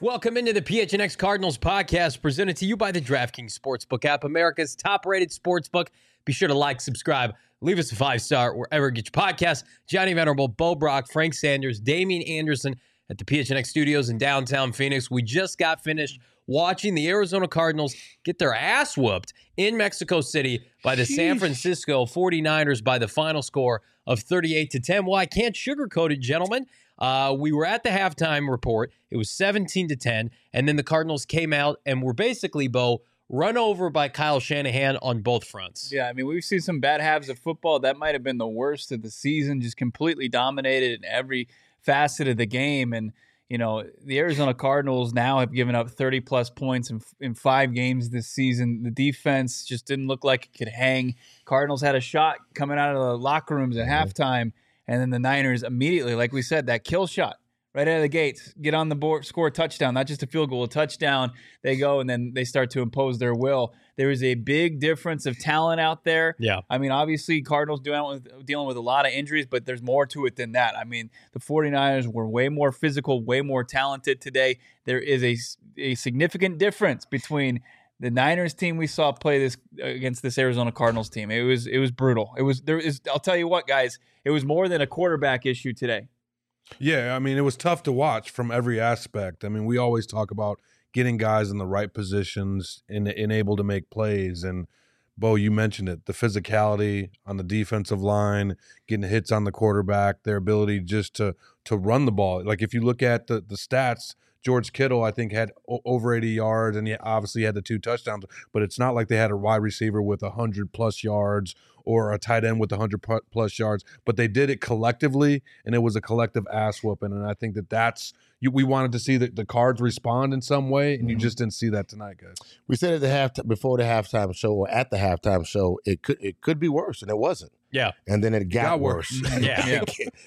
Welcome into the PHNX Cardinals podcast, presented to you by the DraftKings Sportsbook app, America's top-rated sportsbook. Be sure to like, subscribe, leave us a 5-star wherever you get your podcasts. Johnny Venerable, Bo Brock, Frank Sanders, Damian Anderson at the PHNX studios in downtown Phoenix. We just got finished watching the Arizona Cardinals get their ass whooped in Mexico City by the San Francisco 49ers by the final score of 38-10. Well, I can't sugarcoat it, gentlemen. We were at the halftime report. It was 17-10, and then the Cardinals came out and were basically, Bo, run over by Kyle Shanahan on both fronts. Yeah, I mean, we've seen some bad halves of football. That might have been the worst of the season, just completely dominated in every facet of the game. And, you know, the Arizona Cardinals now have given up 30-plus points in 5 games this season. The defense just didn't look like it could hang. Cardinals had a shot coming out of the locker rooms at halftime, and then the Niners immediately, like we said, that kill shot right out of the gates, get on the board, score a touchdown, not just a field goal, a touchdown. They go, and then they start to impose their will. There is a big difference of talent out there. Yeah. I mean, obviously, Cardinals dealing with a lot of injuries, but there's more to it than that. I mean, the 49ers were way more physical, way more talented today. There is a significant difference between the Niners team we saw play this against this Arizona Cardinals team. It was brutal. I'll tell you what, guys, it was more than a quarterback issue today. Yeah, I mean, it was tough to watch from every aspect. I mean, we always talk about getting guys in the right positions and able to make plays. And, Bo, you mentioned it, the physicality on the defensive line, getting hits on the quarterback, their ability just to run the ball. Like, if you look at the stats, George Kittle, I think, had over 80 yards, and he obviously had the 2 touchdowns. But it's not like they had a wide receiver with 100-plus yards or a tight end with 100-plus yards. But they did it collectively, and it was a collective ass whooping. And I think that's we wanted to see the Cards respond in some way, and you just didn't see that tonight, guys. We said at before the halftime show, or at the halftime show, it could be worse, and it wasn't. Yeah. And then it got worse. Yeah.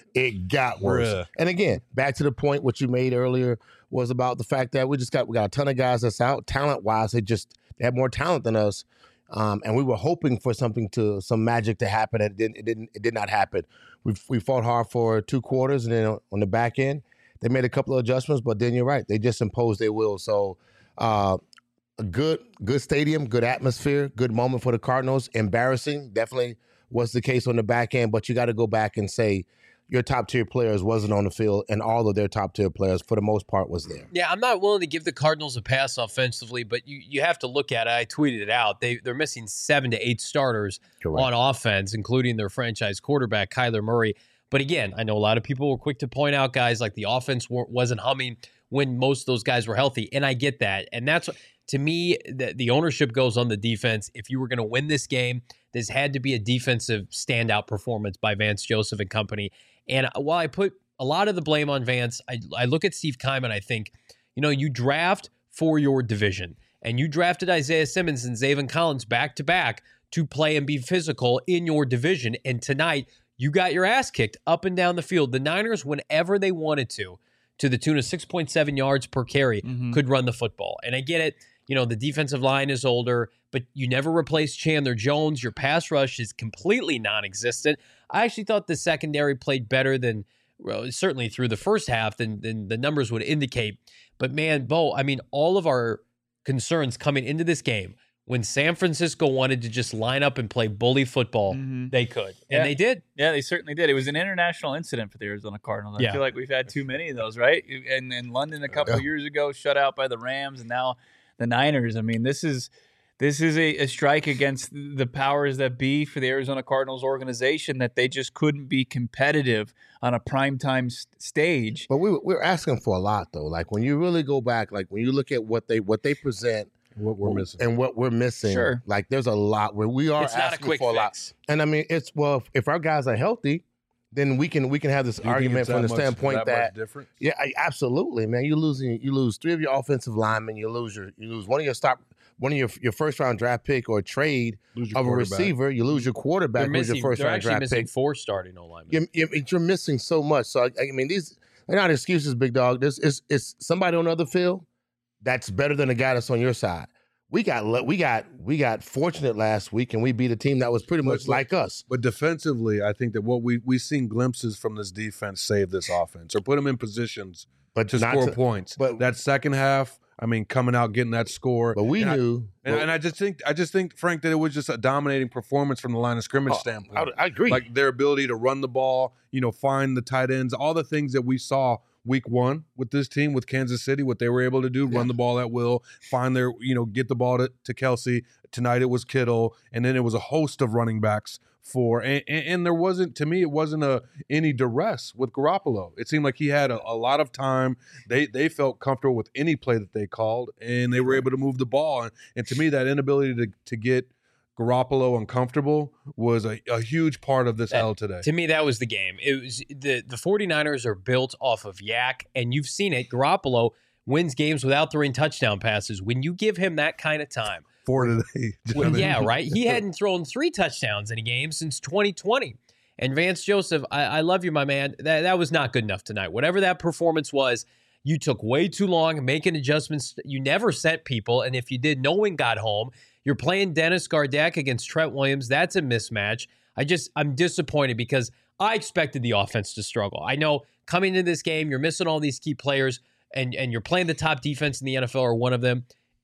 It got worse. Bruh. And again, back to the point what you made earlier was about the fact that we got a ton of guys that's out. Talent-wise, they have more talent than us. And we were hoping for some magic to happen. It did not happen. We fought hard for 2 quarters, and then on the back end, they made a couple of adjustments, but then you're right. They just imposed their will. So a good stadium, good atmosphere, good moment for the Cardinals. Embarrassing, definitely was the case on the back end, but you got to go back and say your top-tier players wasn't on the field, and all of their top-tier players, for the most part, was there. Yeah, I'm not willing to give the Cardinals a pass offensively, but you have to look at it. I tweeted it out. They're missing 7 to 8 starters on offense, including their franchise quarterback, Kyler Murray. But again, I know a lot of people were quick to point out, guys, like the offense wasn't humming when most of those guys were healthy, and I get that. And that's, to me, the ownership goes on the defense. If you were going to win this game, this had to be a defensive standout performance by Vance Joseph and company. And while I put a lot of the blame on Vance, I look at Steve Keiman, I think, you draft for your division, and you drafted Isaiah Simmons and Zaven Collins back-to-back to play and be physical in your division. And tonight, you got your ass kicked up and down the field. The Niners, whenever they wanted to the tune of 6.7 yards per carry, could run the football. And I get it. The defensive line is older, but you never replace Chandler Jones. Your pass rush is completely non-existent. I actually thought the secondary played better than, certainly through the first half, than the numbers would indicate. But man, Bo, I mean, all of our concerns coming into this game, when San Francisco wanted to just line up and play bully football, they could. And they did. Yeah, they certainly did. It was an international incident for the Arizona Cardinals. I feel like we've had too many of those, right? And in London a couple of years ago, shut out by the Rams, and now the Niners. I mean, this is a strike against the powers that be for the Arizona Cardinals organization, that they just couldn't be competitive on a primetime stage. But we're asking for a lot, though. Like, when you really go back, like when you look at what they present, what we're missing, and what we're missing, sure, like there's a lot where we are asking for a lot. And I mean, if our guys are healthy, then we can have this argument from the standpoint that absolutely, man. You lose 3 of your offensive linemen. You lose one of your first round draft pick or trade of a receiver. You lose your quarterback. Lose your first round draft pick. 4 starting O-linemen. You're missing so much. So I mean, they're not excuses, big dog. It's somebody on the other field that's better than the guy that's on your side. We got fortunate last week, and we beat a team that was pretty much like us. But defensively, I think that what we've seen glimpses from this defense save this offense, or put them in positions but to score points. But that second half, I mean, coming out getting that score. But we knew, and I just think, Frank, that it was just a dominating performance from the line of scrimmage standpoint. I agree. Like their ability to run the ball, find the tight ends, all the things that we saw week one with this team, with Kansas City, what they were able to do, run the ball at will, find their, get the ball to Kelsey. Tonight it was Kittle, and then it was a host of running backs and there wasn't, to me, it wasn't any duress with Garoppolo. It seemed like he had a lot of time. They felt comfortable with any play that they called, and they were able to move the ball. And to me, that inability to get Garoppolo uncomfortable was a huge part of this L today. To me, that was the game. It was the 49ers are built off of yak, and you've seen it. Garoppolo wins games without throwing touchdown passes. When you give him that kind of time. 4 today. Well, yeah, right? He hadn't thrown 3 touchdowns in a game since 2020. And Vance Joseph, I love you, my man. That was not good enough tonight. Whatever that performance was, you took way too long making adjustments. You never sent people, and if you did, no one got home. You're playing Dennis Gardeck against Trent Williams. That's a mismatch. I'm disappointed because I expected the offense to struggle. I know coming into this game, you're missing all these key players, and you're playing the top defense in the NFL or one of them.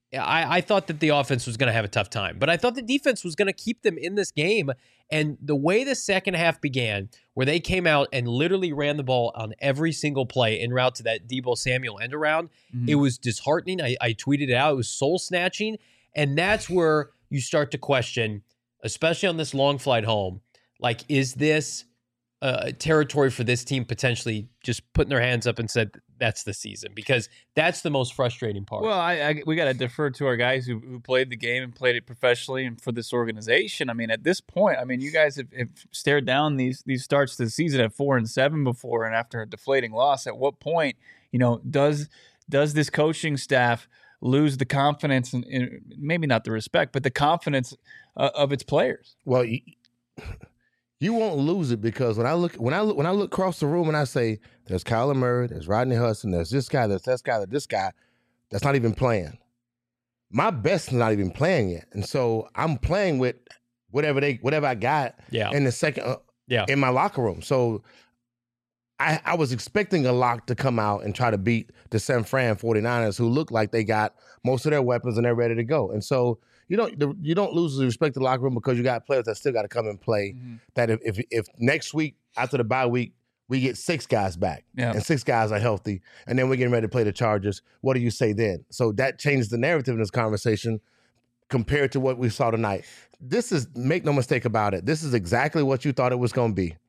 I thought that the offense was going to have a tough time, but I thought the defense was going to keep them in this game. And the way the second half began, where they came out and literally ran the ball on every single play en route to that Deebo Samuel end around, it was disheartening. I tweeted it out. It was soul snatching. And that's where you start to question, especially on this long flight home, like, is this territory for this team potentially just putting their hands up and said, that's the season? Because that's the most frustrating part. Well, we got to defer to our guys who played the game and played it professionally and for this organization. I mean, at this point, you guys have stared down these starts to the season at 4-7 before, and after a deflating loss. At what point, does this coaching staff lose the confidence and maybe not the respect, but the confidence of its players? Well, you won't lose it because when I look across the room and I say, there's Kyler Murray, there's Rodney Hudson, there's this guy, there's this guy, there's this guy, that's not even playing. My best is not even playing yet, and so I'm playing with whatever I got in the second in my locker room. So I was expecting a lock to come out and try to beat the San Fran 49ers, who look like they got most of their weapons and they're ready to go. And so you don't lose the respect of the locker room because you got players that still got to come and play. Mm-hmm. That if next week after the bye week we get 6 guys back and 6 guys are healthy, and then we're getting ready to play the Chargers, what do you say then? So that changes the narrative in this conversation compared to what we saw tonight. This is, make no mistake about it, this is exactly what you thought it was going to be.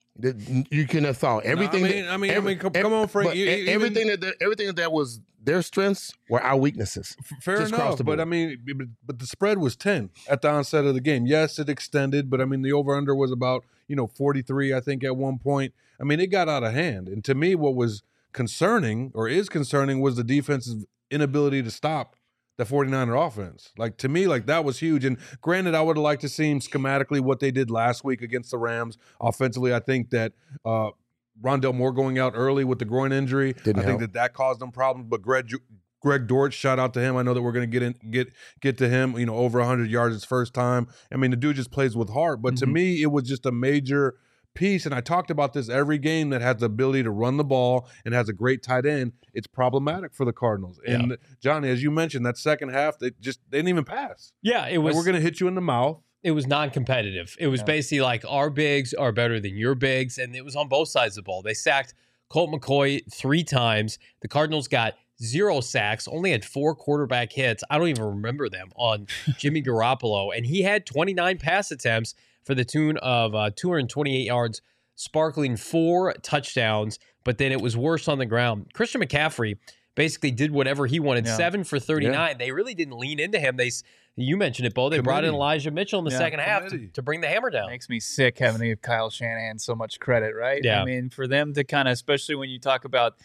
You couldn't have thought everything. Come on, Frank. Everything that was their strengths were our weaknesses. Fair enough, but but the spread was 10 at the onset of the game. Yes, it extended, but the over/under was about 43, I think, at one point. It got out of hand, and to me, what was concerning or is concerning was the defense's inability to stop the 49er offense. Like, to me, like, that was huge. And granted, I would have liked to see schematically what they did last week against the Rams. Offensively, I think that Rondale Moore going out early with the groin injury, I think that caused them problems. But Greg Dortch, shout out to him. I know that we're going to get to him, over 100 yards his first time. The dude just plays with heart. But to me, it was just a major piece, and I talked about this, every game that has the ability to run the ball and has a great tight end, it's problematic for the Cardinals. And Johnny, as you mentioned, that second half, they didn't even pass. Yeah, it was. Like, we're going to hit you in the mouth. It was non-competitive. It was basically like, our bigs are better than your bigs, and it was on both sides of the ball. They sacked Colt McCoy 3 times. The Cardinals got 0 sacks, only had 4 quarterback hits. I don't even remember them on Jimmy Garoppolo, and he had 29 pass attempts for the tune of 228 yards, sparkling 4 touchdowns, but then it was worse on the ground. Christian McCaffrey basically did whatever he wanted, 7 for 39. Yeah. They really didn't lean into him. You mentioned it, Bo. They brought in Elijah Mitchell in the second half to bring the hammer down. Makes me sick having to give Kyle Shanahan so much credit, right? Yeah. For them to kind of, especially when you talk about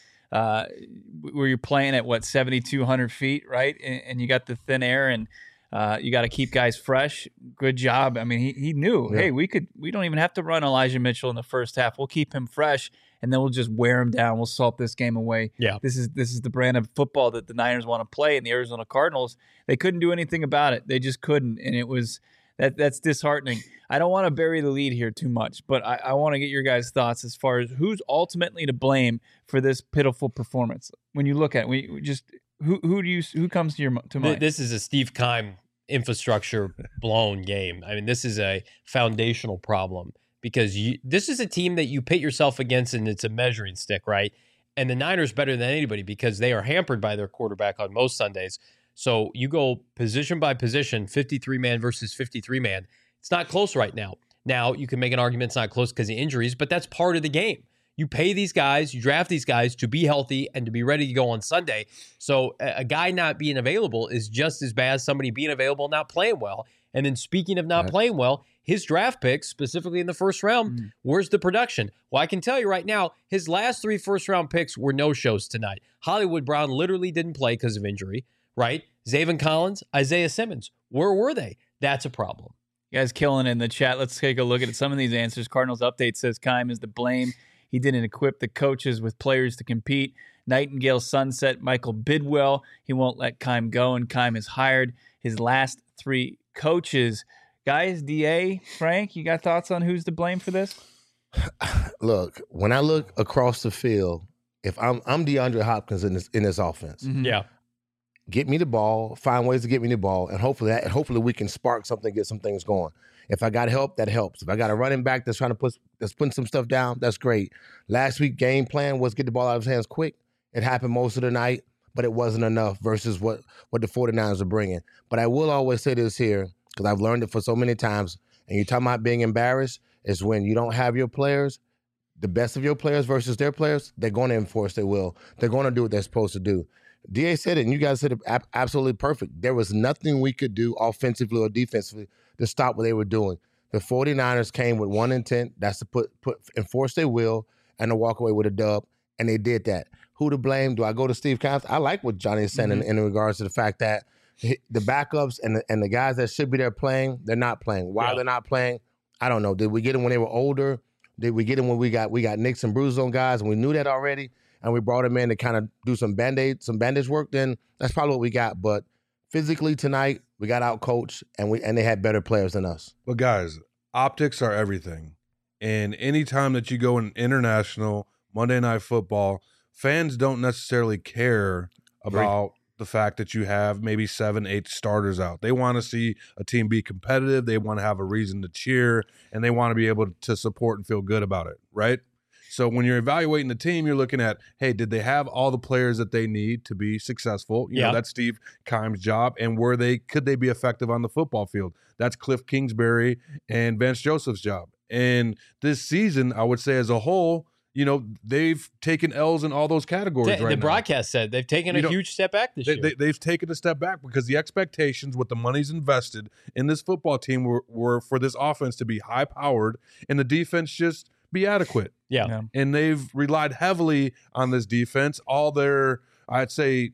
where you're playing at, 7,200 feet, right? And you got the thin air and you got to keep guys fresh. Good job. He knew, hey, we don't even have to run Elijah Mitchell in the first half. We'll keep him fresh, and then we'll just wear him down. We'll salt this game away. Yeah. This is the brand of football that the Niners want to play, and the Arizona Cardinals, they couldn't do anything about it. They just couldn't. And it was That's disheartening. I don't want to bury the lead here too much, but I want to get your guys' thoughts as far as who's ultimately to blame for this pitiful performance. When you look at it, we just who comes to mind? This is a Steve Keim infrastructure blown game. I mean, this is a foundational problem because this is a team that you pit yourself against, and it's a measuring stick, right? And the Niners better than anybody because they are hampered by their quarterback on most Sundays. So you go position by position, 53-man versus 53-man. It's not close right now. Now, you can make an argument it's not close because of injuries, but that's part of the game. You pay these guys, you draft these guys to be healthy and to be ready to go on Sunday. So a guy not being available is just as bad as somebody being available and not playing well. And then speaking of not playing well, his draft picks, specifically in the first round, where's the production? Well, I can tell you right now, his last 3 first-round picks were no-shows tonight. Hollywood Brown literally didn't play because of injury, right? Zaven Collins, Isaiah Simmons, where were they? That's a problem. You guys killing it in the chat. Let's take a look at some of these answers. Cardinals Update says Keim is to blame. He didn't equip the coaches with players to compete. Nightingale Sunset, Michael Bidwell. He won't let Keim go, and Keim has hired his last 3 coaches. Guys, DA, Frank, you got thoughts on who's to blame for this? Look, when I look across the field, if I'm DeAndre Hopkins in this offense, Yeah. Get me the ball, find ways to get me the ball, and hopefully we can spark something, get some things going. If I got help, that helps. If I got a running back that's putting some stuff down, that's great. Last week game plan was get the ball out of his hands quick. It happened most of the night, but it wasn't enough versus what the 49ers are bringing. But I will always say this here, because I've learned it for so many times, and you're talking about being embarrassed, is when you don't have your players, the best of your players versus their players, they're going to enforce their will. They're going to do what they're supposed to do. DA said it, and you guys said it absolutely perfect. There was nothing we could do offensively or defensively to stop what they were doing. The 49ers came with one intent, that's to enforce their will and to walk away with a dub, and they did that. Who to blame? Do I go to Steve Keim? I like what Johnny is saying in regards to the fact that the backups and the guys that should be there playing, they're not playing. Why they're not playing, I don't know. Did we get them when they were older? Did we get them when we got nicks and bruises on guys and we knew that already? And we brought him in to kind of do some bandage work, then that's probably what we got. But physically tonight, we got out coached and they had better players than us. But guys, optics are everything. And anytime that you go in international Monday Night Football, fans don't necessarily care about the fact that you have maybe 7-8 starters out. They want to see a team be competitive. They want to have a reason to cheer, and they want to be able to support and feel good about it, right? So when you're evaluating the team, you're looking at, hey, did they have all the players that they need to be successful? You know, that's Steve Keim's job. And could they be effective on the football field? That's Cliff Kingsbury and Vance Joseph's job. And this season, I would say as a whole, you know, they've taken L's in all those categories right now. The broadcast said they've taken a huge step back this year. They've taken a step back because the expectations with the monies invested in this football team were for this offense to be high-powered and the defense just be adequate. Yeah. And they've relied heavily on this defense. All their, I'd say,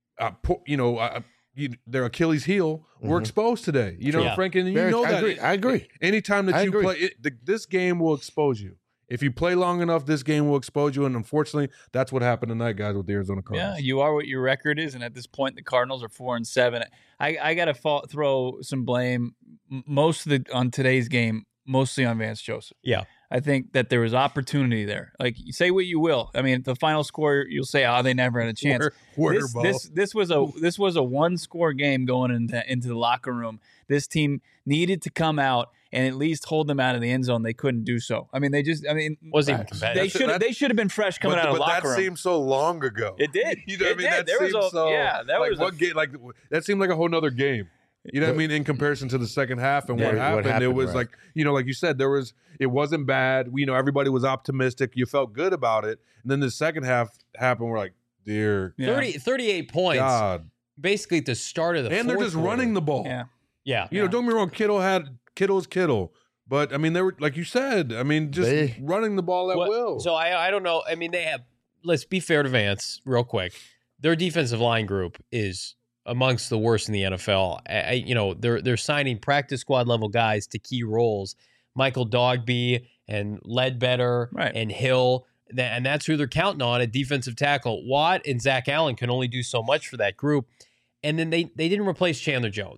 their Achilles heel were exposed today. You know, Frank, and you know that. I agree. Anytime that play, this game will expose you. If you play long enough, this game will expose you. And unfortunately, that's what happened tonight, guys, with the Arizona Cardinals. Yeah, you are what your record is. And at this point, the Cardinals are 4-7. I got to throw some blame on today's game, mostly on Vance Joseph. Yeah. I think that there was opportunity there. Like, say what you will. I mean, the final score, you'll say, they never had a chance. This was a 1-score game going into the locker room. This team needed to come out and at least hold them out of the end zone. They couldn't do so. I mean, wasn't even competitive. They should have been fresh coming out of the locker room. But that seemed so long ago. It did. You know what I mean? That seemed so. Yeah, that was one game. Like that seemed like a whole nother game. You know what I mean? In comparison to the second half and what happened, it was like, you know, like you said, it wasn't bad. Everybody was optimistic. You felt good about it. And then the second half happened. We're like, dear. 38 points. God. Basically at the start of the And they're just running the ball. Yeah. You know, don't get me wrong. Kittle's Kittle. But, I mean, they were, like you said, just running the ball at will. So I don't know. I mean, let's be fair to Vance real quick. Their defensive line group is amongst the worst in the NFL. They're signing practice squad level guys to key roles. Michael Dogby and Ledbetter and Hill, and that's who they're counting on at defensive tackle. Watt and Zach Allen can only do so much for that group. And then they didn't replace Chandler Jones.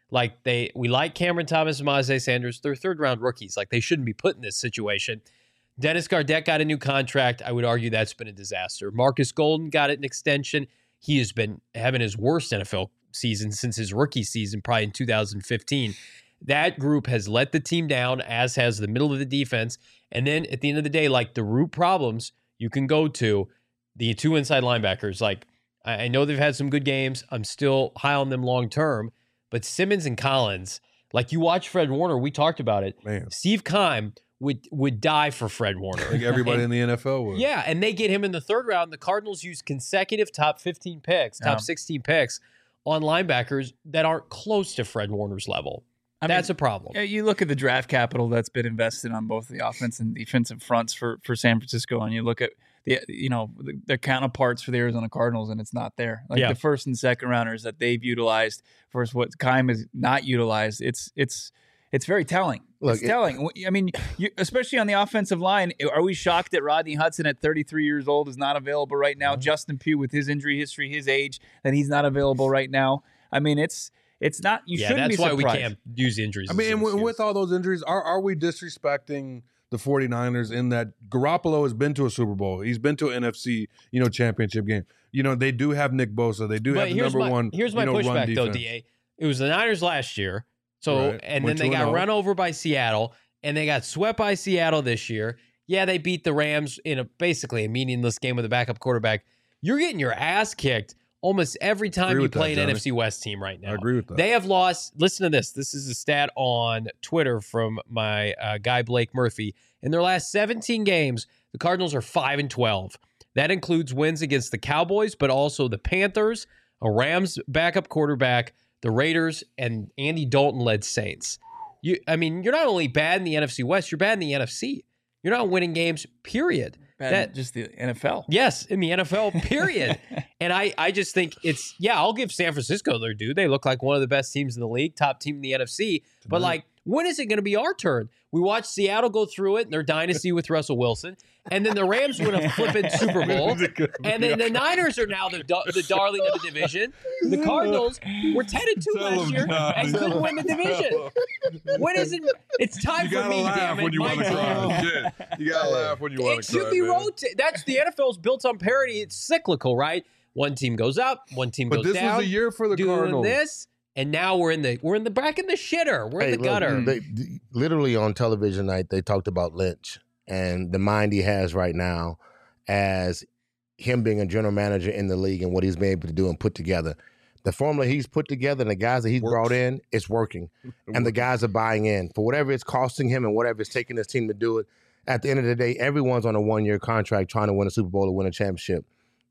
Like we like Cameron Thomas and Myjai Sanders. They're third-round rookies. Like they shouldn't be put in this situation. Dennis Gardeck got a new contract. I would argue that's been a disaster. Marcus Golden got an extension. He has been having his worst NFL season since his rookie season, probably in 2015. That group has let the team down, as has the middle of the defense. And then at the end of the day, like the root problems, you can go to the 2 inside linebackers. Like I know they've had some good games. I'm still high on them long term. But Simmons and Collins, like you watch Fred Warner, we talked about it. Man. Steve Keim would die for Fred Warner. Like everybody in the NFL would. Yeah, and they get him in the third round. The Cardinals use consecutive top 15 picks, top 16 picks on linebackers that aren't close to Fred Warner's level. That's a problem. You look at the draft capital that's been invested on both the offense and defensive fronts for San Francisco, and you look at their counterparts for the Arizona Cardinals, and it's not there. Like the first and second rounders that they've utilized versus what Keim has not utilized. It's very telling. It's telling. I mean, especially on the offensive line, are we shocked that Rodney Hudson at 33 years old is not available right now? Mm-hmm. Justin Pugh with his injury history, his age, that he's not available right now. I mean, it's not. You shouldn't be surprised. That's why we can't use injuries. I mean, and with all those injuries, are we disrespecting the 49ers in that Garoppolo has been to a Super Bowl? He's been to an NFC, championship game. They do have Nick Bosa. They do have the number one. Here's my pushback, though, DA. It was the Niners last year. So, right. And then they got run over by Seattle, and they got swept by Seattle this year. Yeah, they beat the Rams in basically a meaningless game with a backup quarterback. You're getting your ass kicked almost every time you play an NFC West team right now. I agree with that. They have lost. Listen to this. This is a stat on Twitter from my guy Blake Murphy. In their last 17 games, the Cardinals are 5-12. That includes wins against the Cowboys, but also the Panthers, a Rams backup quarterback, the Raiders, and Andy Dalton-led Saints. You're not only bad in the NFC West, you're bad in the NFC. You're not winning games, period. Just the NFL. Yes, in the NFL, period. And I just think I'll give San Francisco their due. They look like one of the best teams in the league, top team in the NFC. But when is it going to be our turn? We watched Seattle go through it in their dynasty with Russell Wilson. And then the Rams win a flipping Super Bowl. And then the Niners are now the darling of the division. The Cardinals were 10-2 last year and couldn't win the division. When is it? It's time for me, damn it. When you want to cry. You got to laugh when you want to cry. It should be rotated. That's the NFL's built on parity. It's cyclical, right? One team goes up, one team goes down. But this was a year for the Cardinals. And now we're in the back in the shitter. We're in the gutter. Literally on television night, they talked about Lynch and the mind he has right now as him being a general manager in the league and what he's been able to do and put together. The formula he's put together and the guys that he's brought in, it's working. And the guys are buying in. For whatever it's costing him and whatever it's taking his team to do it, at the end of the day, everyone's on a one-year contract trying to win a Super Bowl or win a championship.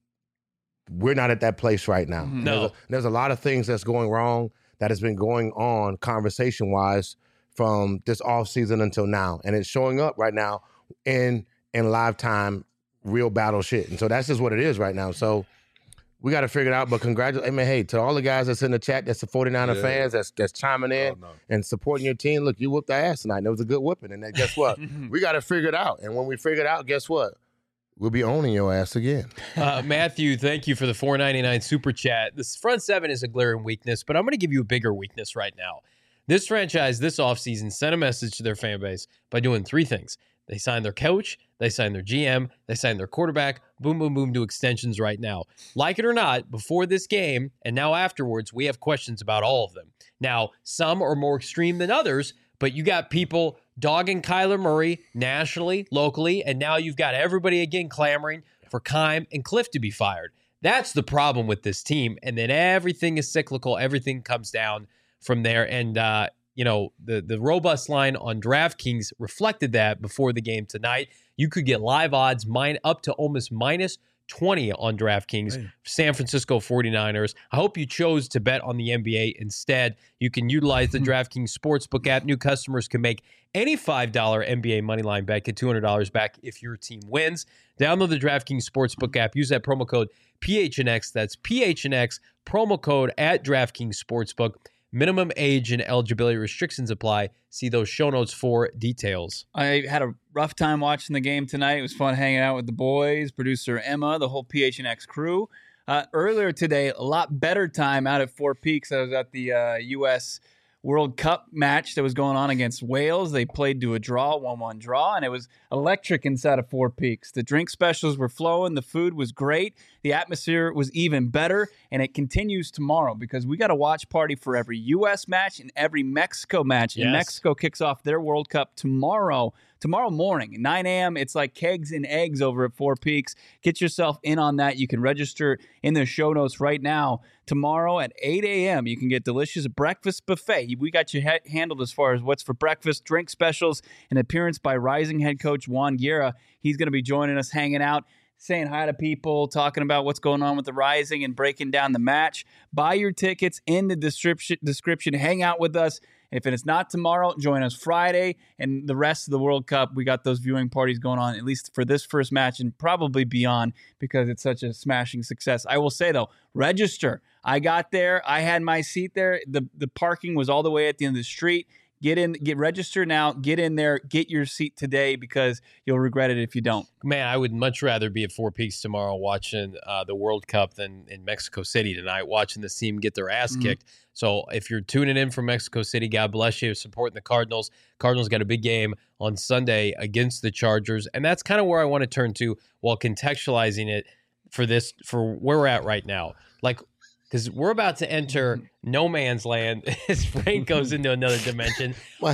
We're not at that place right now. No. There's a lot of things that's going wrong that has been going on conversation-wise from this offseason until now. And it's showing up right now in live time, real battle shit. And so that's just what it is right now. So we got to figure it out. But congratulations. I mean, hey, to all the guys that's in the chat, that's the 49er fans, that's chiming in and supporting your team. Look, you whooped our ass tonight. And it was a good whooping. And then guess what? We got to figure it out. And when we figure it out, guess what? We'll be owning your ass again. Matthew, thank you for the $4.99 super chat. This front seven is a glaring weakness, but I'm going to give you a bigger weakness right now. This franchise, this offseason, sent a message to their fan base by doing three things. They signed their coach, they signed their GM, they signed their quarterback, boom, boom, boom, to extensions right now. Like it or not, before this game and now afterwards, we have questions about all of them. Now, some are more extreme than others, but you got people dogging Kyler Murray nationally, locally, and now you've got everybody again clamoring for Keim and Cliff to be fired. That's the problem with this team. And then everything is cyclical. Everything comes down from there. And, the robust line on DraftKings reflected that before the game tonight. You could get live odds up to almost minus 20 on DraftKings, San Francisco 49ers. I hope you chose to bet on the NBA instead. You can utilize the DraftKings Sportsbook app. New customers can make any $5 NBA moneyline bet, get $200 back if your team wins. Download the DraftKings Sportsbook app. Use that promo code PHNX. That's PHNX, promo code at DraftKings Sportsbook. Minimum age and eligibility restrictions apply. See those show notes for details. I had a rough time watching the game tonight. It was fun hanging out with the boys, producer Emma, the whole PHNX crew. Earlier today, a lot better time out at Four Peaks. I was at the U.S. World Cup match that was going on against Wales. They played to a draw, 1-1 draw, and it was electric inside of Four Peaks. The drink specials were flowing. The food was great. The atmosphere was even better, and it continues tomorrow because we got a watch party for every U.S. match and every Mexico match. Yes. And Mexico kicks off their World Cup tomorrow morning, 9 a.m. It's like kegs and eggs over at Four Peaks. Get yourself in on that. You can register in the show notes right now. Tomorrow at 8 a.m., you can get delicious breakfast buffet. We got you handled as far as what's for breakfast, drink specials, an appearance by Rising head coach Juan Guerra. He's going to be joining us, hanging out, saying hi to people, talking about what's going on with the Rising and breaking down the match. Buy your tickets in the description. Hang out with us. If it is not tomorrow, join us Friday and the rest of the World Cup. We got those viewing parties going on, at least for this first match and probably beyond because it's such a smashing success. I will say, though, register. I got there. I had my seat there. The parking was all the way at the end of the street. Get registered now. Get in there. Get your seat today because you'll regret it if you don't. Man, I would much rather be at Four Peaks tomorrow watching the World Cup than in Mexico City tonight, watching this team get their ass kicked. So if you're tuning in from Mexico City, God bless you, supporting the Cardinals. Cardinals got a big game on Sunday against the Chargers, and that's kind of where I want to turn to while contextualizing it for where we're at right now. Like, because we're about to enter no man's land as Frank goes into another dimension.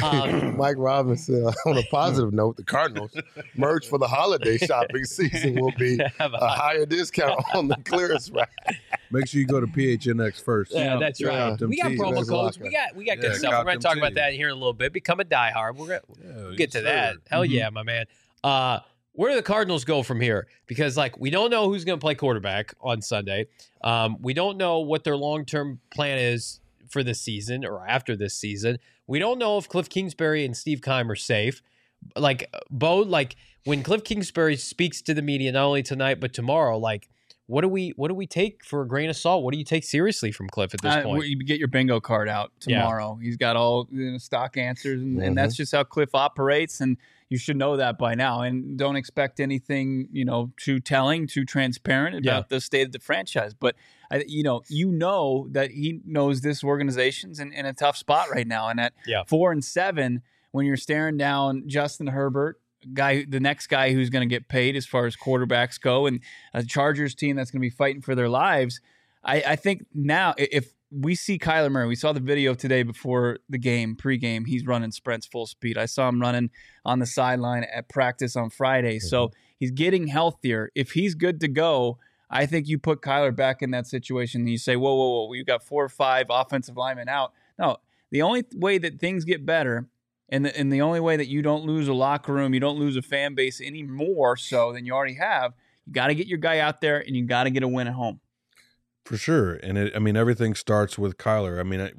Mike Robinson, on a positive note, the Cardinals merch for the holiday shopping season will be a higher discount on the clearance rack. Make sure you go to PHNX first. Yeah, that's right. We got promo codes. We got good stuff. We're going to talk about that here in a little bit. Become a diehard. We'll get to that. Hell yeah, my man. Where do the Cardinals go from here? Because, we don't know who's going to play quarterback on Sunday. We don't know what their long-term plan is for this season or after this season. We don't know if Cliff Kingsbury and Steve Keim are safe. When Cliff Kingsbury speaks to the media, not only tonight but tomorrow, what do we take for a grain of salt? What do you take seriously from Cliff at this point? You get your bingo card out tomorrow. Yeah. He's got all stock answers, and that's just how Cliff operates, and you should know that by now. And don't expect anything, too telling, too transparent about the state of the franchise. But, you know that he knows this organization's in a tough spot right now. And at 4-7, when you're staring down Justin Herbert, the next guy who's going to get paid as far as quarterbacks go, and a Chargers team that's going to be fighting for their lives. I think now if we see Kyler Murray, we saw the video today before the game, pregame, he's running sprints full speed. I saw him running on the sideline at practice on Friday. Mm-hmm. So he's getting healthier. If he's good to go, I think you put Kyler back in that situation and you say, whoa, you've got 4 or 5 offensive linemen out. No, the only way that things get better and the only way that you don't lose a locker room, you don't lose a fan base any more so than you already have, you got to get your guy out there and you got to get a win at home. For sure. And everything starts with Kyler.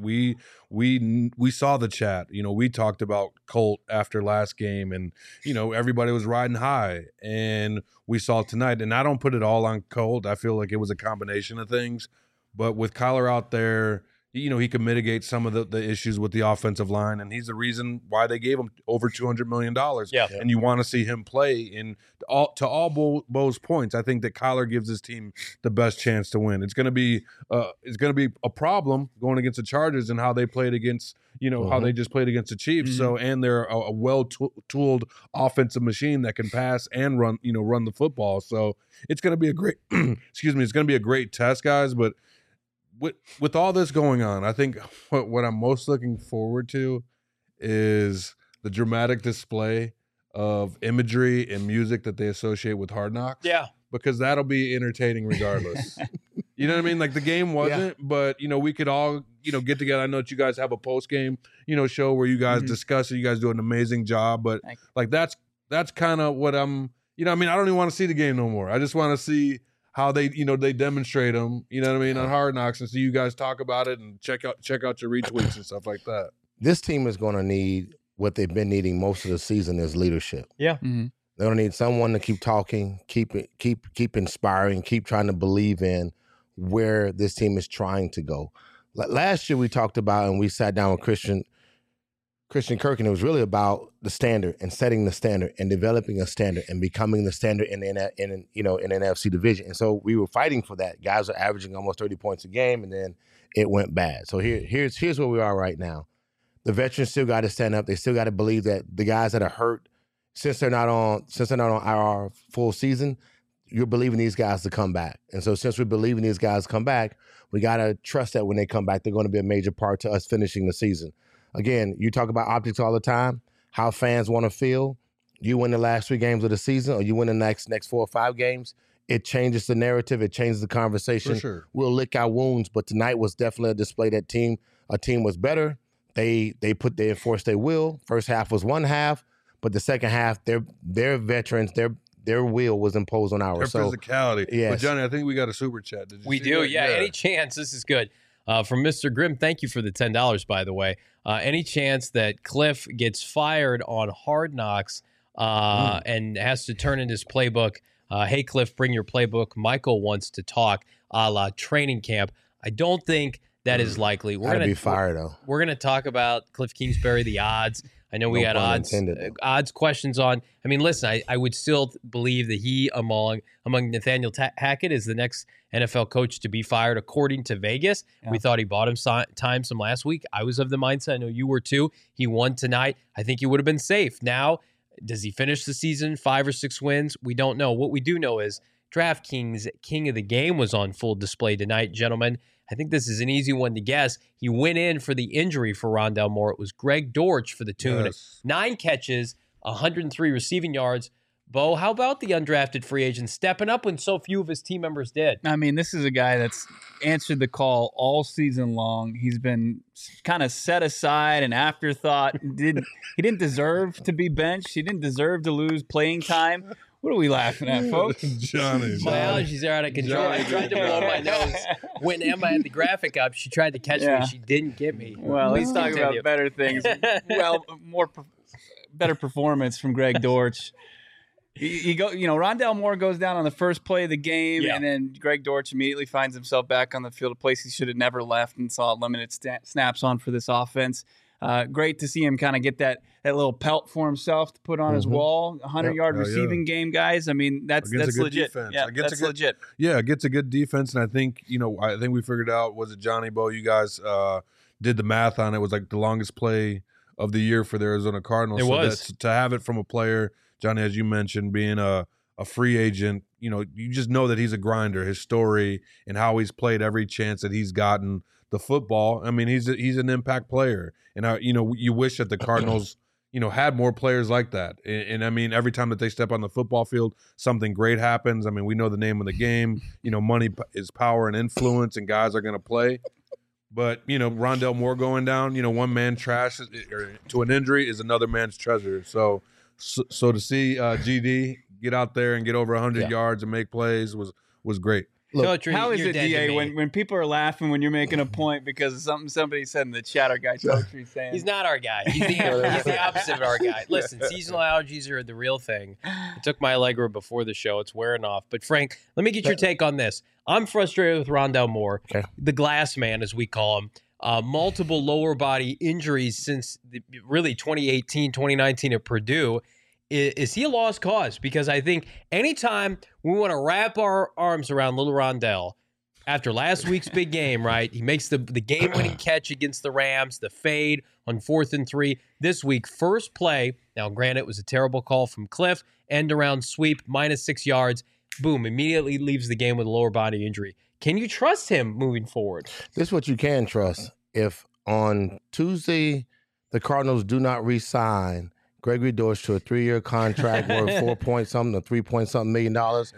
We saw the chat, we talked about Colt after last game and, everybody was riding high, and we saw tonight, and I don't put it all on Colt. I feel like it was a combination of things, but with Kyler out there, he can mitigate some of the issues with the offensive line, and he's the reason why they gave him over $200 million. Yeah. And you want to see him play. And to all Bo's points, I think that Kyler gives his team the best chance to win. It's going to be a problem going against the Chargers and how they played against, how they just played against the Chiefs. Mm-hmm. So, and they're a well-tooled offensive machine that can pass and run the football. So it's going to be a great, it's going to be a great test, guys. But with all this going on, I think what I'm most looking forward to is the dramatic display of imagery and music that they associate with Hard Knocks. Yeah. Because that'll be entertaining regardless. You know what I mean? The game wasn't, but, we could all, get together. I know that you guys have a post-game, show where you guys discuss it. You guys do an amazing job. But, that's kind of what I'm, I don't even want to see the game no more. I just want to see how they, they demonstrate them, on Hard Knocks, and so you guys talk about it and check out your retweets and stuff like that. This team is going to need what they've been needing most of the season is leadership. Yeah. Mm-hmm. They're going to need someone to keep talking, keep inspiring, keep trying to believe in where this team is trying to go. Last year we talked about, and we sat down with Christian Kirk, and it was really about the standard and setting the standard and developing a standard and becoming the standard in an NFC division. And so we were fighting for that. Guys are averaging almost 30 points a game, and then it went bad. So here's where we are right now. the veterans still got to stand up. They still got to believe that the guys that are hurt, since they're not on our full season, you're believing these guys to come back. And so since we're believing these guys to come back, we got to trust that when they come back, they're going to be a major part to us finishing the season. Again, you talk about optics all the time, how fans want to feel. You win the last 3 games of the season or you win the next 4 or 5 games, it changes the narrative. It changes the conversation. For sure. We'll lick our wounds, but tonight was definitely a display that a team was better. They enforced their will. First half was one half, but the second half, their veterans, their will was imposed on ours. Their physicality. Yes. But Johnny, I think we got a super chat. Did you We see do, that? yeah. Any chance, this is good. From Mr. Grimm, thank you for the $10, by the way. Any chance that Cliff gets fired on Hard Knocks and has to turn in his playbook? Hey, Cliff, bring your playbook. Michael wants to talk a la training camp. I don't think that is likely. We're gonna be fired though. We're gonna talk about Cliff Kingsbury, the odds. I know we No had pun odds questions on. I mean, listen, I would still believe that he, among Nathaniel Hackett, is the next NFL coach to be fired, according to Vegas. Yeah. We thought he bought him time some last week. I was of the mindset. I know you were too. He won tonight. I think he would have been safe. Now, does he finish the season 5 or 6 wins? We don't know. What we do know is DraftKings King of the Game was on full display tonight, gentlemen. I think this is an easy one to guess. He went in for the injury for Rondale Moore. It was Greg Dortch for the tune. 9 catches, 103 receiving yards. Bo, how about the undrafted free agent stepping up when so few of his team members did? I mean, this is a guy that's answered the call all season long. He's been kind of set aside, an afterthought. He didn't deserve to be benched. He didn't deserve to lose playing time. What are we laughing at, folks? Johnny. My allergies are out of control. I tried to blow my nose. When Emma had the graphic up, she tried to catch me. She didn't get me. Well, let's talk about better things. Well, better performance from Greg Dortch. Rondale Moore goes down on the first play of the game, and then Greg Dortch immediately finds himself back on the field, a place he should have never left, and saw limited snaps on for this offense. Great to see him kind of get that little pelt for himself to put on his wall. 100-yard receiving game, guys. I mean, that's legit. Defense. Yeah, that's legit. Yeah, it gets a good defense, and I think we figured out, was it Johnny, Bo? You guys did the math on it. It was like the longest play of the year for the Arizona Cardinals. It was. To have it from a player, Johnny, as you mentioned, being a free agent, you just know that he's a grinder. His story and how he's played every chance that he's gotten the football. I mean, he's an impact player, and you wish that the Cardinals had more players like that. And I mean, every time that they step on the football field, something great happens. I mean, we know the name of the game. Money is power and influence, and guys are going to play. But Rondale Moore going down, one man trash to an injury is another man's treasure. So to see GD get out there and get over 100 yards and make plays was great. Look, how is it, DA, when people are laughing when you're making a point because of something somebody said in the chat, our guy Totri saying? He's not our guy. He's the opposite of our guy. Listen, seasonal allergies are the real thing. I took my Allegra before the show. It's wearing off. But, Frank, let me get your take on this. I'm frustrated with Rondale Moore, the glass man, as we call him. Multiple lower body injuries since really 2018, 2019 at Purdue. Is he a lost cause? Because I think anytime we want to wrap our arms around little Rondale, after last week's big game, right? He makes the game-winning catch against the Rams, the fade on 4th and 3. This week, first play. Now, granted, it was a terrible call from Cliff. End around sweep, -6 yards. Boom, immediately leaves the game with a lower body injury. Can you trust him moving forward? This is what you can trust. If on Tuesday the Cardinals do not re-sign Gregory Dortch to a 3-year contract worth $4-point-something to $3-point-something million,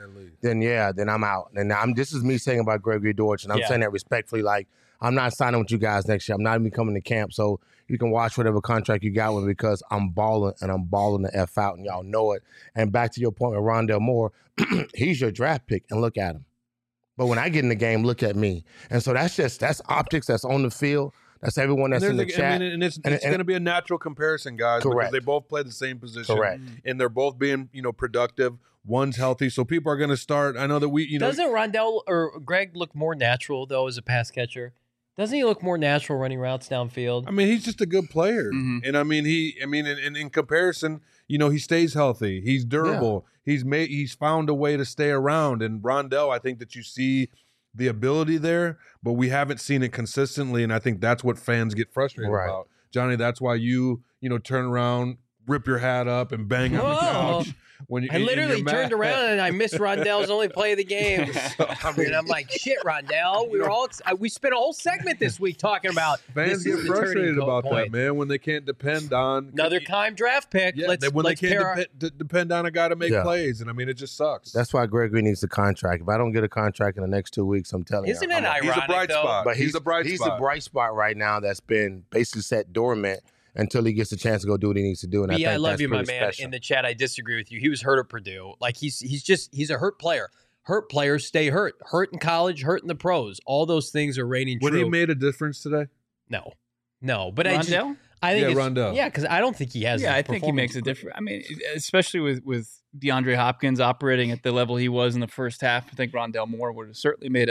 then I'm out. And this is me saying about Gregory Dortch, and I'm saying that respectfully. Like, I'm not signing with you guys next year. I'm not even coming to camp, so you can watch whatever contract you got with me because I'm balling, and I'm balling the F out, and y'all know it. And back to your point with Rondale Moore, he's your draft pick, and look at him. But when I get in the game, look at me. And so that's optics, that's on the field. That's everyone that's in the chat. And it's going to be a natural comparison, guys. Correct. Because they both play the same position. Correct. And they're both being, productive. One's healthy. So people are going to start. I know that Doesn't Rondale or Greg look more natural, though, as a pass catcher? Doesn't he look more natural running routes downfield? I mean, he's just a good player. Mm-hmm. And I mean, in comparison, he stays healthy. He's durable. Yeah. He's found a way to stay around. And Rondale, I think that you see the ability there, but we haven't seen it consistently, and I think that's what fans get frustrated about. Johnny, that's why you turn around, rip your hat up, and bang on the couch. When I literally turned around and I missed Rondell's only play of the game. And I'm like, shit, Rondell. We spent a whole segment this week talking about fans get frustrated about that, man, when they can't depend on another Keim draft pick. Yeah, when they can't depend on a guy to make plays, and I mean, it just sucks. That's why Gregory needs a contract. If I don't get a contract in the next 2 weeks, I'm telling you, isn't it ironic? He's a bright spot. But he's a bright spot. He's a bright spot right now that's been basically set dormant until he gets a chance to go do what he needs to do. And I love you, my man. Special. In the chat, I disagree with you. He was hurt at Purdue. Like he's a hurt player. Hurt players stay hurt. Hurt in college, hurt in the pros. All those things are reigning true. Would he made a difference today? No. But Rondell? I think Rondell. Yeah, because I don't think he has. Yeah, I think he makes a difference. I mean, especially with DeAndre Hopkins operating at the level he was in the first half, I think Rondell Moore would have certainly made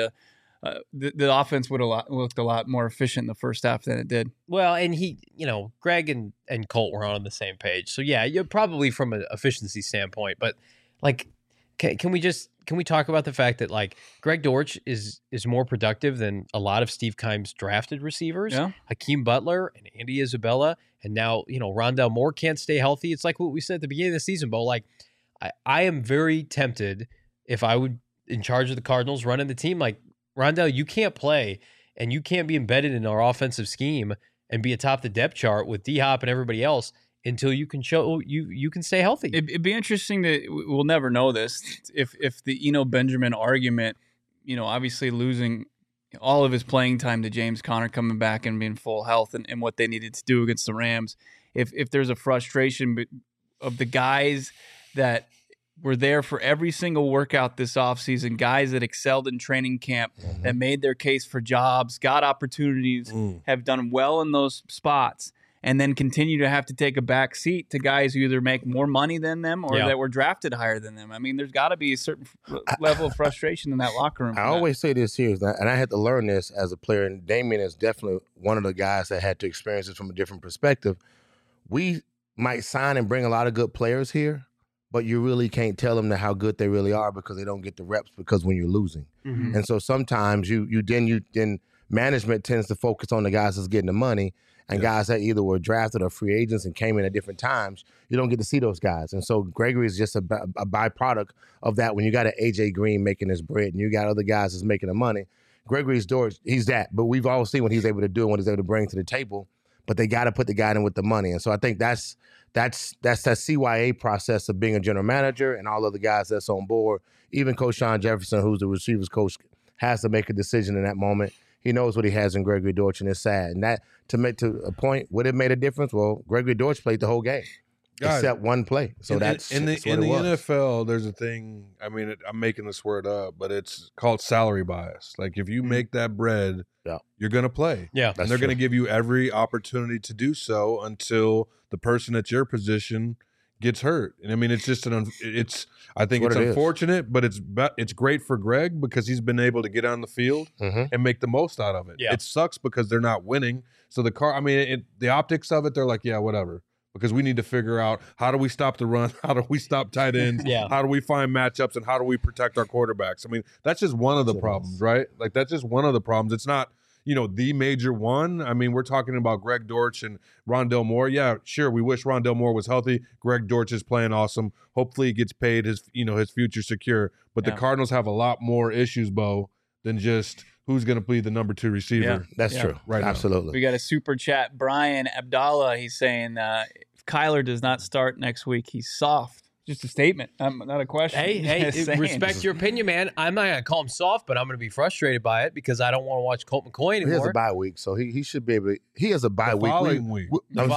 the offense would have looked a lot more efficient in the first half than it did. Well, and Greg and Colt were on the same page. So yeah, you're probably from an efficiency standpoint, but like, can we talk about the fact that like Greg Dortch is more productive than a lot of Steve Keim's drafted receivers, Hakeem Butler and Andy Isabella, and now Rondell Moore can't stay healthy. It's like what we said at the beginning of the season, Bo. Like, I am very tempted if I would in charge of the Cardinals running the team, like, Rondell, you can't play and you can't be embedded in our offensive scheme and be atop the depth chart with D-Hop and everybody else until you can show you can stay healthy. It'd be interesting we'll never know this, if the Eno Benjamin argument, obviously losing all of his playing time to James Conner coming back and being full health and what they needed to do against the Rams, if there's a frustration of the guys that were there for every single workout this offseason, guys that excelled in training camp, that made their case for jobs, got opportunities, have done well in those spots, and then continue to have to take a back seat to guys who either make more money than them or that were drafted higher than them. I mean, there's got to be a certain level of frustration in that locker room. I always say this here, and I had to learn this as a player, and Damian is definitely one of the guys that had to experience this from a different perspective. We might sign and bring a lot of good players here, but you really can't tell them how good they really are because they don't get the reps because when you're losing. And so sometimes you then management tends to focus on the guys that's getting the money and guys that either were drafted or free agents and came in at different times. You don't get to see those guys. And so Gregory is just a byproduct of that. When you got an A.J. Green making his bread and you got other guys that's making the money, Gregory's Dortch, he's that. But we've all seen what he's able to do and what he's able to bring to the table. But they got to put the guy in with the money. And so I think that's that CYA process of being a general manager and all of the guys that's on board. Even Coach Sean Jefferson, who's the receivers coach, has to make a decision in that moment. He knows what he has in Gregory Dortch, and it's sad. And that, to make to a point, would it made a difference? Well, Gregory Dortch played the whole game. Except one play. So in that's in the NFL, there's a thing, I mean, I'm making this word up, but it's called salary bias. Like if you make that bread, you're going to play. Yeah. And they're going to give you every opportunity to do so until the person at your position gets hurt. And I mean, it's just I think it's unfortunate, but it's great for Greg because he's been able to get on the field and make the most out of it. Yeah. It sucks because they're not winning. So the optics of it, they're like, yeah, whatever. Because we need to figure out how do we stop the run, how do we stop tight ends, how do we find matchups, and how do we protect our quarterbacks. I mean, that's just one of the problems, right? Like that's just one of the problems. It's not, the major one. I mean, we're talking about Greg Dortch and Rondell Moore. Yeah, sure, we wish Rondell Moore was healthy. Greg Dortch is playing awesome. Hopefully he gets paid, his future secure. But the Cardinals have a lot more issues, Bo, than just who's going to be the number 2 receiver. Yeah, that's true. Right. Absolutely. We got a super chat. Brian Abdallah, he's saying if Kyler does not start next week, he's soft. Just a statement, not a question. Hey, respect your opinion, man. I'm not going to call him soft, but I'm going to be frustrated by it because I don't want to watch Colt McCoy anymore. He has a bye week, so he should be able to. He has a bye week. The following week.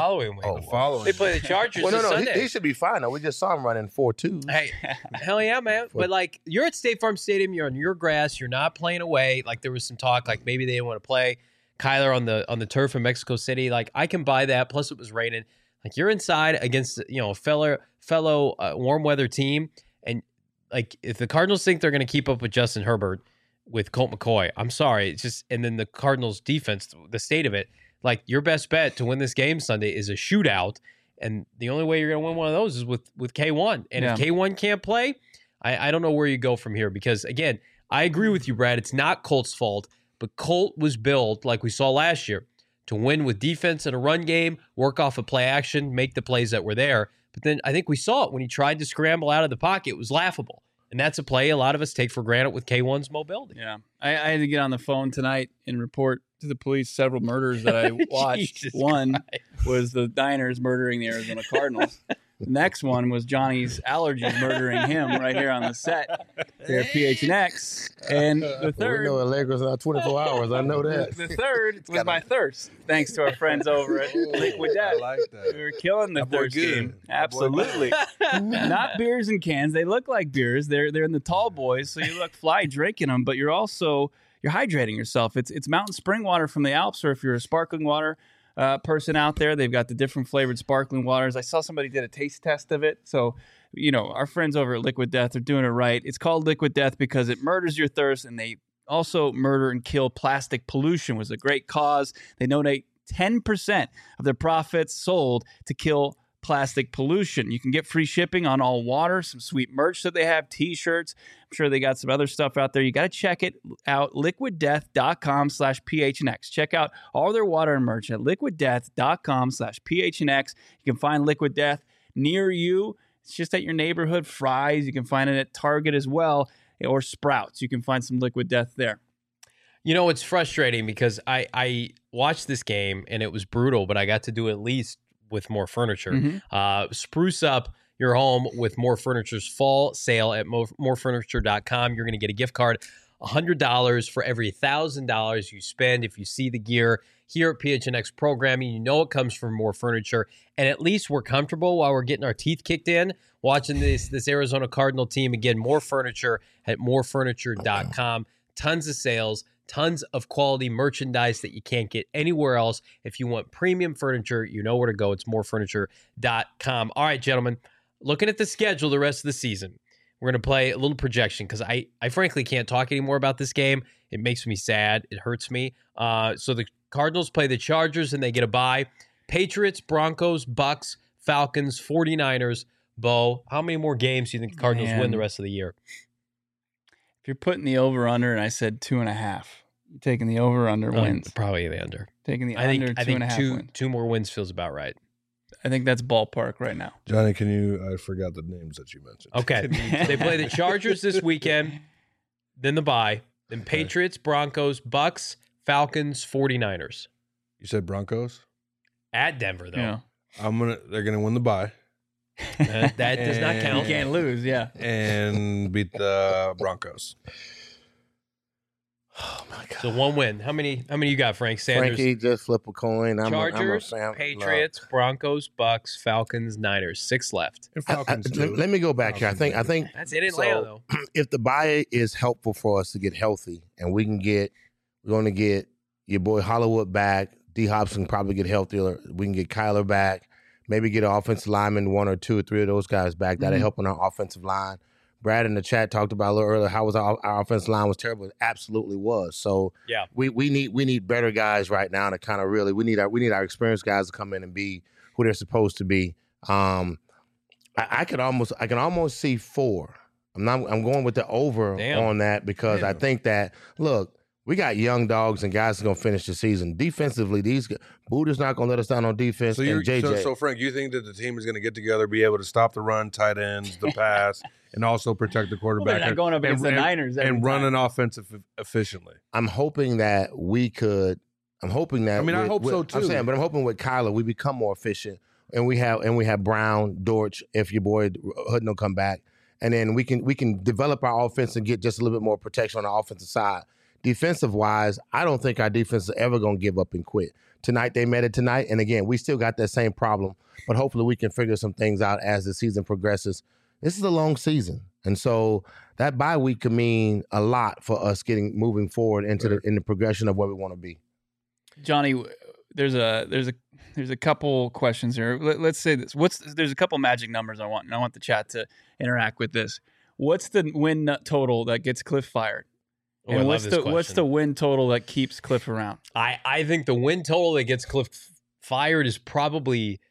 They play the Chargers Sunday. He should be fine. We just saw him running 4.2. Hey, hell yeah, man. But, like, you're at State Farm Stadium. You're on your grass. You're not playing away. Like, there was some talk, like, maybe they didn't want to play Kyler on the turf in Mexico City. Like, I can buy that. Plus, it was raining. Like you're inside against a fellow warm weather team, and like if the Cardinals think they're going to keep up with Justin Herbert with Colt McCoy, I'm sorry, it's just and then the Cardinals defense, the state of it, like your best bet to win this game Sunday is a shootout, and the only way you're going to win one of those is with K1, and if K1 can't play, I don't know where you go from here because again, I agree with you, Brad. It's not Colt's fault, but Colt was billed like we saw last year. to win with defense and a run game, work off of play action, make the plays that were there. But then I think we saw it when he tried to scramble out of the pocket. It was laughable. And that's a play a lot of us take for granted with K1's mobility. Yeah. I had to get on the phone tonight and report to the police several murders that I watched. One was the Diners murdering the Arizona Cardinals. The next one was Johnny's allergies murdering him right here on the set here at PHNX. And the third... We know Allegra's not 24 hours. I know that. The third was my thirst, thanks to our friends over at Liquid Death. I like that. We were killing the thirst game. That boy Absolutely. Not beers in cans. They look like beers. They're in the tall boys, so you look fly drinking them, but you're hydrating yourself. It's mountain spring water from the Alps, or if you're a sparkling water person out there, they've got the different flavored sparkling waters. I saw somebody did a taste test of it. So, our friends over at Liquid Death are doing it right. It's called Liquid Death because it murders your thirst, and they also murder and kill plastic pollution. It was a great cause. They donate 10% of their profits sold to kill plastic pollution. You can get free shipping on all water, some sweet merch that they have, t-shirts. I'm sure they got some other stuff out there. You got to check it out, liquiddeath.com/PHNX. Check out all their water and merch at liquiddeath.com/PHNX. You can find Liquid Death near you. It's just at your neighborhood Fry's. You can find it at Target as well, or Sprouts. You can find some Liquid Death there. It's frustrating because I watched this game and it was brutal, but I got to do at least with More Furniture. Mm-hmm. Spruce up your home with More Furniture's fall sale at morefurniture.com. You're going to get a gift card, $100 for every $1,000 you spend. If you see the gear here at PHNX Programming, it comes from More Furniture. And at least we're comfortable while we're getting our teeth kicked in watching this Arizona Cardinal team. Again, More Furniture at morefurniture.com. Tons of sales. Tons of quality merchandise that you can't get anywhere else. If you want premium furniture, you know where to go. It's morefurniture.com. All right, gentlemen, looking at the schedule the rest of the season, we're going to play a little projection because I frankly can't talk anymore about this game. It makes me sad. It hurts me. So the Cardinals play the Chargers and they get a bye. Patriots, Broncos, Bucks, Falcons, 49ers. Bo, how many more games do you think the Cardinals win the rest of the year? If you're putting the over-under, and I said 2.5, you're taking the over-under wins. Probably the under. Taking the under 2.5 wins. Two more wins feels about right. I think that's ballpark right now. Johnny, I forgot the names that you mentioned. Okay. They play the Chargers this weekend, then the bye, then Patriots, Broncos, Bucks, Falcons, 49ers. You said Broncos? At Denver, though. Yeah. They're gonna win the bye. That does not count. You can't lose, yeah. And beat the Broncos. Oh my God. So one win. How many you got, Frank? Sanders? Frankie, just flip a coin. Chargers, Patriots, Broncos, Bucks, Falcons, Niners. 6 left. And Falcons too. Let me go back here. I think That's it in Atlanta, though. If the bye is helpful for us to get healthy, and we're going to get your boy Hollywood back, D Hop's can probably get healthier. We can get Kyler back. Maybe get an offensive lineman, 1 or 2 or 3 of those guys back. That'll help on our offensive line. Brad in the chat talked about a little earlier how was our offensive line was terrible. It absolutely was. So yeah, we need better guys right now to kind of really we need our experienced guys to come in and be who they're supposed to be. I can almost see 4. I'm going with the over on that because I think that we got young dogs and guys that's going to finish the season. Defensively, Buddha's not going to let us down on defense. So Frank, you think that the team is going to get together, be able to stop the run, tight ends, the pass, and also protect the quarterback? They're not going up against the Niners and run an offense efficiently. I'm hoping that we could. I'm hoping that. I hope so too. I'm hoping with Kyler we become more efficient, and we have Brown, Dortch, if your boy Hutton will come back, and then we can develop our offense and get just a little bit more protection on the offensive side. Defensive wise, I don't think our defense is ever going to give up and quit. Tonight, they met it tonight. And again, we still got that same problem, but hopefully we can figure some things out as the season progresses. This is a long season. And so that bye week could mean a lot for us moving forward into the progression of where we want to be. Johnny, there's a couple questions here. Let's say this. There's a couple magic numbers I want the chat to interact with this. What's the win total that gets Cliff fired? And what's the win total that keeps Cliff around? I think the win total that gets Cliff fired is probably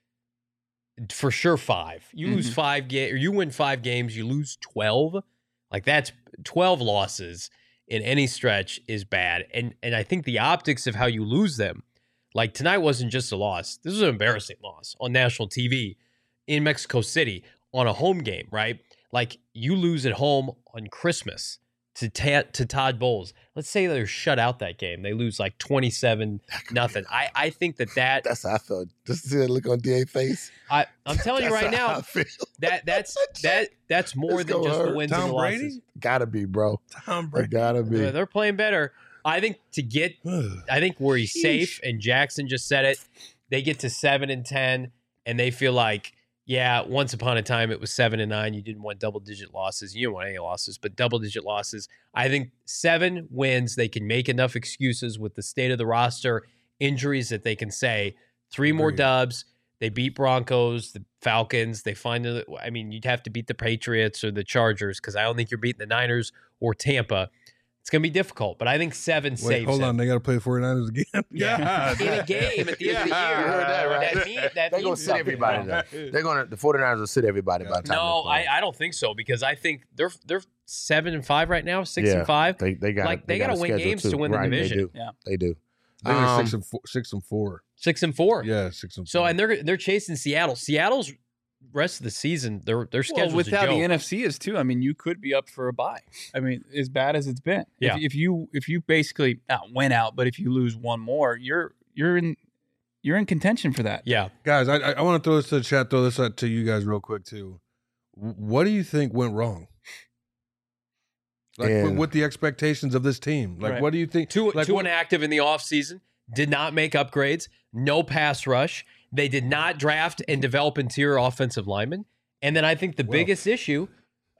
for sure 5. You lose 5 games, or you win 5 games, you lose 12. Like that's 12 losses in any stretch is bad. And I think the optics of how you lose them Like tonight wasn't just a loss. This was an embarrassing loss on national TV in Mexico City on a home game, right? Like you lose at home on Christmas to Todd Bowles. Let's say they're shut out that game. They lose like 27-0. I think that's how I felt. Just to see that look on DA's face. I'm telling you right now, that's more than just the wins and the losses. Gotta be, bro. Tom Brady. Gotta be. They're playing better. I think where he's safe, and Jackson just said it, they get to 7-10, and they feel like, yeah, once upon a time it was 7-9. You didn't want double-digit losses. You didn't want any losses, but double-digit losses. I think 7 wins, they can make enough excuses with the state of the roster, injuries that they can say 3 more dubs. They beat Broncos, the Falcons. You'd have to beat the Patriots or the Chargers because I don't think you're beating the Niners or Tampa. It's going to be difficult, but I think 7 saves. Hold on. They got to play the 49ers again? Yeah. In a game at the end of the year. You heard that, right? They're going to sit everybody there. The 49ers will sit everybody by the time. No, I don't think so because I think they're 7-5 right now, 6-5. They got to win games to win the division. They do. They were 6-4. 6-4. Yeah, 6-4. So and they're chasing Seattle. Seattle's rest of the season, their schedule with how a joke. the NFC is too. I mean, you could be up for a bye. I mean, as bad as it's been. Yeah. If you basically not win out, but if you lose one more, you're in contention for that. Yeah, guys, I want to throw this to the chat. Throw this out to you guys real quick too. What do you think went wrong? Like with the expectations of this team, like what do you think? Too inactive in the offseason, did not make upgrades, no pass rush. They did not draft and develop interior offensive linemen. And then I think the biggest issue,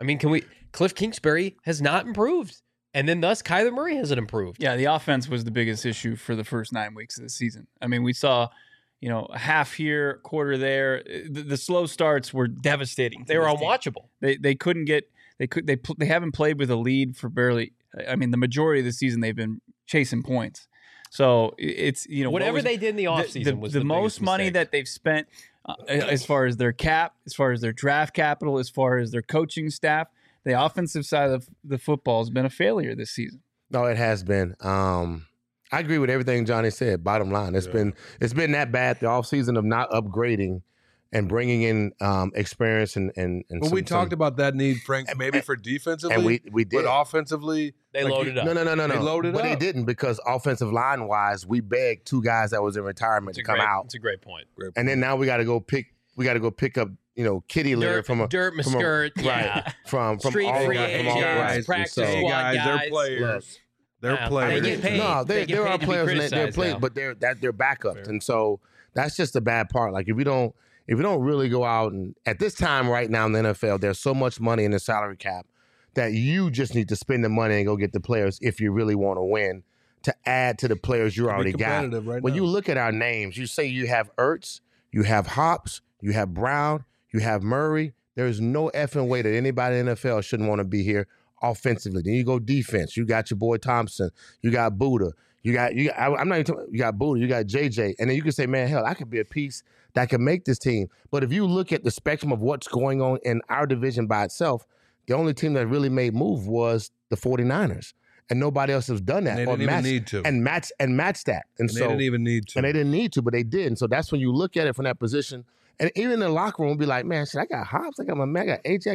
Cliff Kingsbury has not improved. And then thus Kyler Murray hasn't improved. Yeah, the offense was the biggest issue for the first 9 weeks of the season. I mean, we saw, a half here, quarter there. The slow starts were devastating. They were unwatchable. They couldn't get they haven't played with a lead for barely. I mean, the majority of the season they've been chasing points. So it's whatever they did in the offseason was the most money mistake that they've spent as far as their cap, as far as their draft capital, as far as their coaching staff. The offensive side of the football has been a failure this season. No, it has been. I agree with everything Johnny said. Bottom line, it's been that bad the offseason of not upgrading and bringing in experience and well, we talked about that need, Frank, maybe for defensively, and we did. But offensively, they loaded up. No. They loaded but up. They didn't because offensive line wise, we begged 2 guys that was in retirement to come out. It's a great point. And then now we got to go pick up kitty litter from a dirt skirt, right from street all free guys, practice so, squad guys. guys. They're players. They're players. They get paid. No, there are players and they're players, now. but they're backups, fair. And so that's just the bad part. Like if we don't really go out and at this time right now in the NFL, there's so much money in the salary cap that you just need to spend the money and go get the players if you really want to win to add to the players you already got. When you look at our names, you say you have Ertz, you have Hops, you have Brown, you have Murray. There's no effing way that anybody in the NFL shouldn't want to be here offensively. Then you go defense. You got your boy Thompson. You got Buddha. You got Buddha. You got JJ. And then you can say, man, hell, I could be a piece that can make this team. But if you look at the spectrum of what's going on in our division by itself, the only team that really made move was the 49ers. And nobody else has done that. And they didn't even need to. And match that. And so they didn't even need to. And they didn't need to, but they did. And so that's when you look at it from that position. And even in the locker room, be like, man, shit, I got Hobbs, I got my man, I got AJ,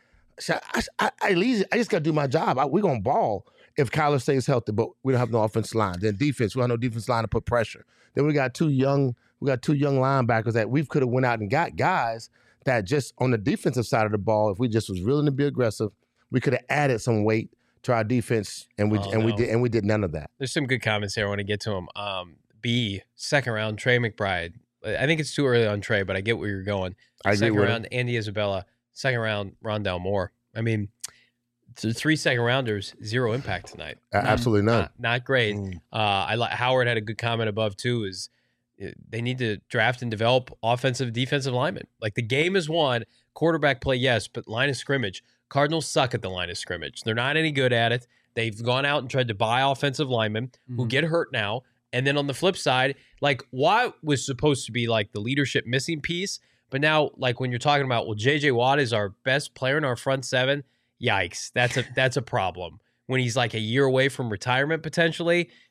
I just got to do my job. We're going to ball if Kyler stays healthy, but we don't have no offensive line. Then defense, we don't have no defense line to put pressure. Then we got two young linebackers that we could have went out and got guys that just on the defensive side of the ball, if we just was willing to be aggressive, we could have added some weight to our defense, and we did none of that. There's some good comments here. I want to get to them. Second round, Trey McBride. I think it's too early on Trey, but I get where you're going. Second round, Andy Isabella. Second round, Rondale Moore. I mean, 3 second rounders, 0 impact tonight. Absolutely none. Not great. Howard had a good comment above too. Is they need to draft and develop offensive, defensive linemen. Like the game is won. Quarterback play, yes, but line of scrimmage. Cardinals suck at the line of scrimmage. They're not any good at it. They've gone out and tried to buy offensive linemen who get hurt now. And then on the flip side, like Watt was supposed to be like the leadership missing piece. But now, like when you're talking about, well, J.J. Watt is our best player in our front seven. Yikes. That's a problem. When he's like a year away from retirement potentially,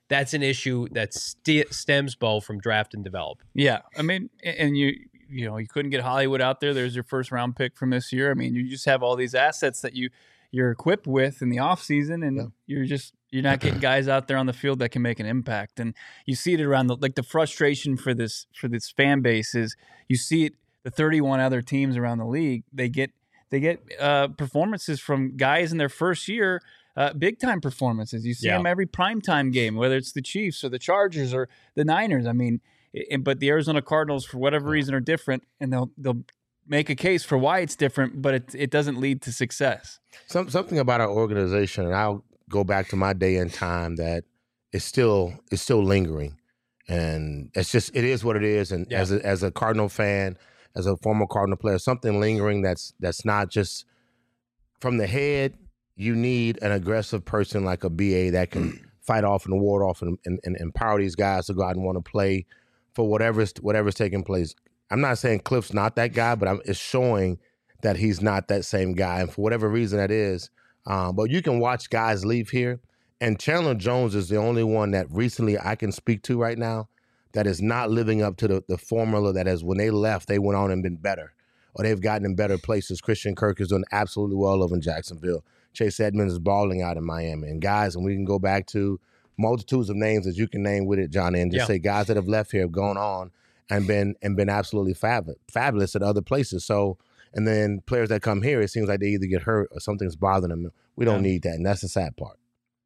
that's an issue that stems, Bo, from draft and develop. Yeah, I mean, and you couldn't get Hollywood out there. There's your first round pick from this year. I mean, you just have all these assets that you're equipped with in the offseason, and you're not getting guys out there on the field that can make an impact. And you see it around the frustration for this fan base is you see it. The 31 other teams around the league, they get performances from guys in their first year. Big time performances. You see them every primetime game, whether it's the Chiefs or the Chargers or the Niners. I mean, but the Arizona Cardinals, for whatever reason, are different, and they'll make a case for why it's different, but it doesn't lead to success. Something about our organization, and I'll go back to my day and time, that is still lingering, and it is what it is. And as a Cardinal fan, as a former Cardinal player, something lingering that's not just from the head. You need an aggressive person like a BA that can fight off and ward off and empower these guys to go out and want to play for whatever's taking place. I'm not saying Cliff's not that guy, but it's showing that he's not that same guy. And for whatever reason that is, but you can watch guys leave here. And Chandler Jones is the only one that recently I can speak to right now that is not living up to the formula that is when they left, they went on and been better. Or they've gotten in better places. Christian Kirk is doing absolutely well over in Jacksonville. Chase Edmonds is balling out in Miami. And guys, and we can go back to multitudes of names that you can name with it, Johnny, and just say guys that have left here have gone on and been absolutely fabulous at other places. So, and then players that come here, it seems like they either get hurt or something's bothering them. We don't need that, and that's the sad part.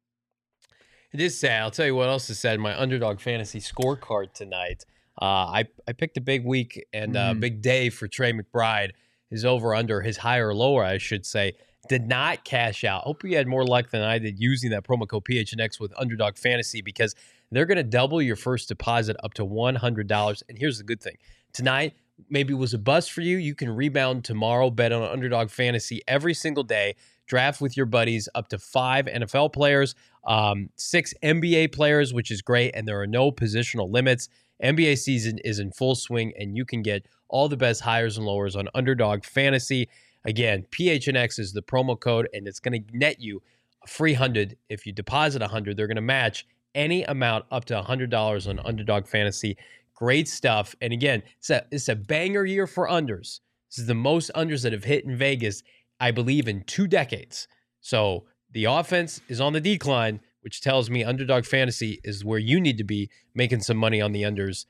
It is sad. I'll tell you what else is sad. My Underdog Fantasy scorecard tonight. I picked a big week and a big day for Trey McBride. His over-under, his higher or lower, I should say, did not cash out. Hope you had more luck than I did using that promo code PHNX with Underdog Fantasy, because they're going to double your first deposit up to $100. And here's the good thing. Tonight, maybe it was a bust for you. You can rebound tomorrow, bet on Underdog Fantasy every single day. Draft with your buddies up to 5 NFL players, 6 NBA players, which is great, and there are no positional limits. NBA season is in full swing, and you can get all the best highs and lowers on Underdog Fantasy. Again, PHNX is the promo code, and it's going to net you a free $100. If you deposit $100, they're going to match any amount up to $100 on Underdog Fantasy. Great stuff. And again, it's a banger year for unders. This is the most unders that have hit in Vegas, I believe, in 2 decades. So the offense is on the decline, which tells me Underdog Fantasy is where you need to be making some money on the unders.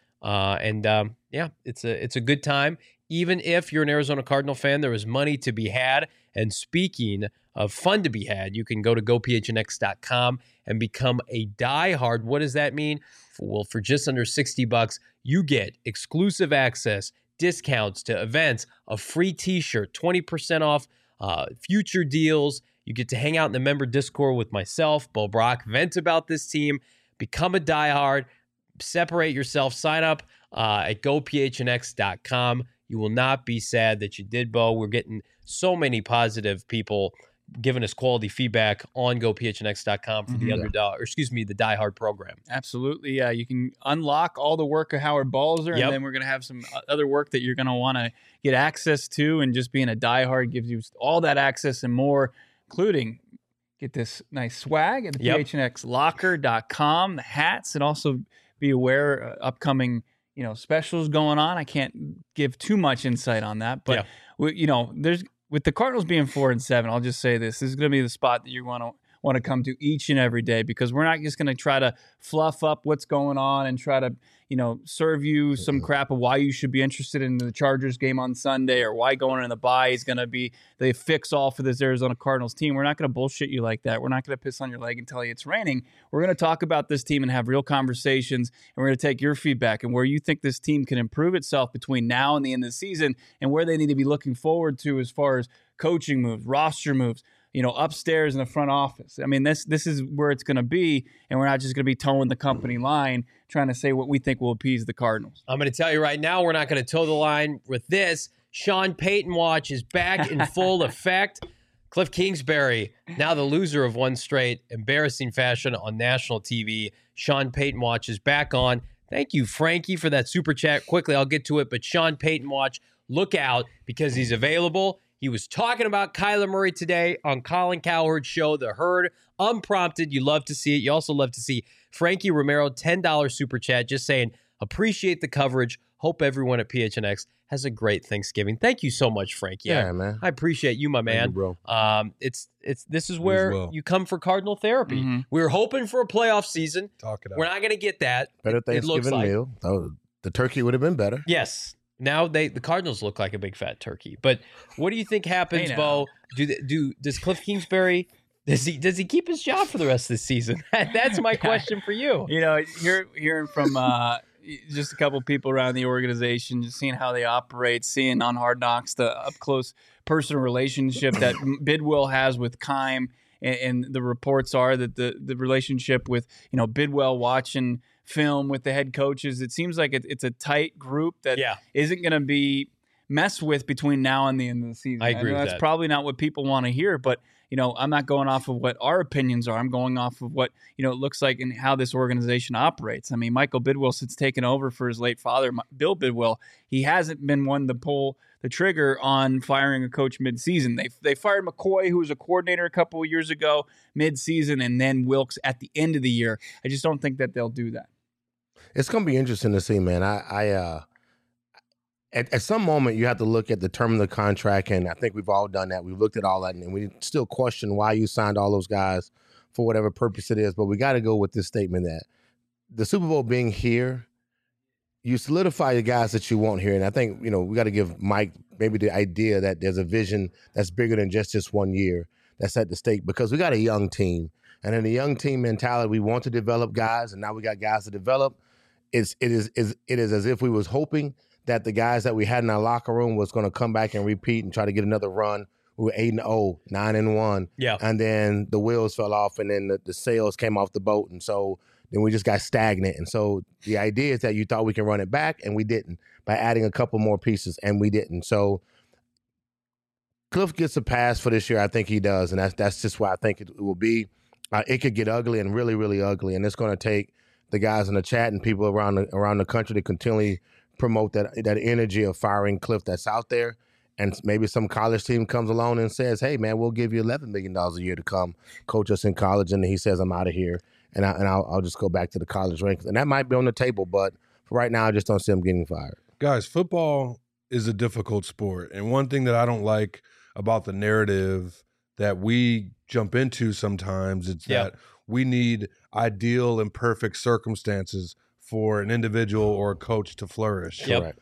It's a good time. Even if you're an Arizona Cardinal fan, there is money to be had. And speaking of fun to be had, you can go to gophnx.com and become a diehard. What does that mean? Well, for just under $60, you get exclusive access, discounts to events, a free t-shirt, 20% off, future deals. You get to hang out in the member Discord with myself, Bo Brock, vent about this team, become a diehard, separate yourself, sign up at gophnx.com. You will not be sad that you did, Bo. We're getting so many positive people giving us quality feedback on gophnx.com for the the diehard program. Absolutely. Yeah, you can unlock all the work of Howard Balzer, and then we're going to have some other work that you're going to want to get access to, and just being a diehard gives you all that access and more, including get this nice swag at the phnxlocker.com, the hats, and also be aware upcoming specials going on. I can't give too much insight on that, but there's with the Cardinals being 4-7. I'll just say this is going to be the spot that you want to come to each and every day, because we're not just going to try to fluff up what's going on and try to serve you some crap of why you should be interested in the Chargers game on Sunday, or why going in the bye is going to be the fix all for this Arizona Cardinals team. We're not going to bullshit you like that. We're not going to piss on your leg and tell you it's raining. We're going to talk about this team and have real conversations, and we're going to take your feedback and where you think this team can improve itself between now and the end of the season, and where they need to be looking forward to as far as coaching moves, roster moves, upstairs in the front office. I mean, this is where it's going to be, and we're not just going to be towing the company line trying to say what we think will appease the Cardinals. I'm going to tell you right now, we're not going to toe the line with this. Sean Payton watch is back in full effect. Cliff Kingsbury, now the loser of one straight embarrassing fashion on national TV. Sean Payton watch is back on. Thank you, Frankie, for that super chat. Quickly, I'll get to it, but Sean Payton watch, look out, because he's available. He was talking about Kyler Murray today on Colin Cowherd's show, The Herd, unprompted. You love to see it. You also love to see Frankie Romero, $10 super chat, just saying, appreciate the coverage. Hope everyone at PHNX has a great Thanksgiving. Thank you so much, Frankie. Yeah, man. I appreciate you, my man. Thank you, bro. This is where you come for Cardinal therapy. Mm-hmm. We were hoping for a playoff season. Talk it out. We're not going to get that. Better Thanksgiving meal. Oh, the turkey would have been better. Yes. Now the Cardinals look like a big fat turkey. But what do you think happens, Bo? Does Cliff Kingsbury does he keep his job for the rest of the season? That's my question for you. You know, hearing from just a couple people around the organization, just seeing how they operate, seeing on Hard Knocks the up close personal relationship that Bidwell has with Keim, and the reports are that the relationship with Bidwell watching film with the head coaches, it seems like it's a tight group that isn't going to be messed with between now and the end of the season. I agree with that's that. probably not what people want to hear, but I'm not going off of what our opinions are. I'm going off of what it looks like and how this organization operates. I mean, Michael Bidwell, since taking over for his late father, Bill Bidwell, he hasn't been one to pull the trigger on firing a coach mid-season. They fired McCoy, who was a coordinator a couple of years ago, mid-season, and then Wilkes at the end of the year. I just don't think that they'll do that. It's going to be interesting to see, man. At some moment, you have to look at the term of the contract, and I think we've all done that. We've looked at all that, and we still question why you signed all those guys for whatever purpose it is. But we got to go with this statement that the Super Bowl being here, you solidify the guys that you want here. And I think, we got to give Mike maybe the idea that there's a vision that's bigger than just this 1 year that's at the stake, because we got a young team. And in a young team mentality, we want to develop guys, and now we got guys to develop. It is as if we was hoping that the guys that we had in our locker room was going to come back and repeat and try to get another run. We were 8-0, 9-1. Yeah. And then the wheels fell off, and then the sails came off the boat. And so then we just got stagnant. And so the idea is that you thought we can run it back, and we didn't, by adding a couple more pieces, and we didn't. So Cliff gets a pass for this year. I think he does. And that's just why I think it will be. It could get ugly and really, really ugly. And it's going to take the guys in the chat and people around the country to continually promote that energy of firing Cliff that's out there. And maybe some college team comes along and says, hey, man, we'll give you $11 million a year to come coach us in college. And he says, I'm out of here. And I'll just go back to the college ranks. And that might be on the table. But for right now, I just don't see him getting fired. Guys, football is a difficult sport. And one thing that I don't like about the narrative that we jump into sometimes is that we need ideal and perfect circumstances for an individual or a coach to flourish. Correct.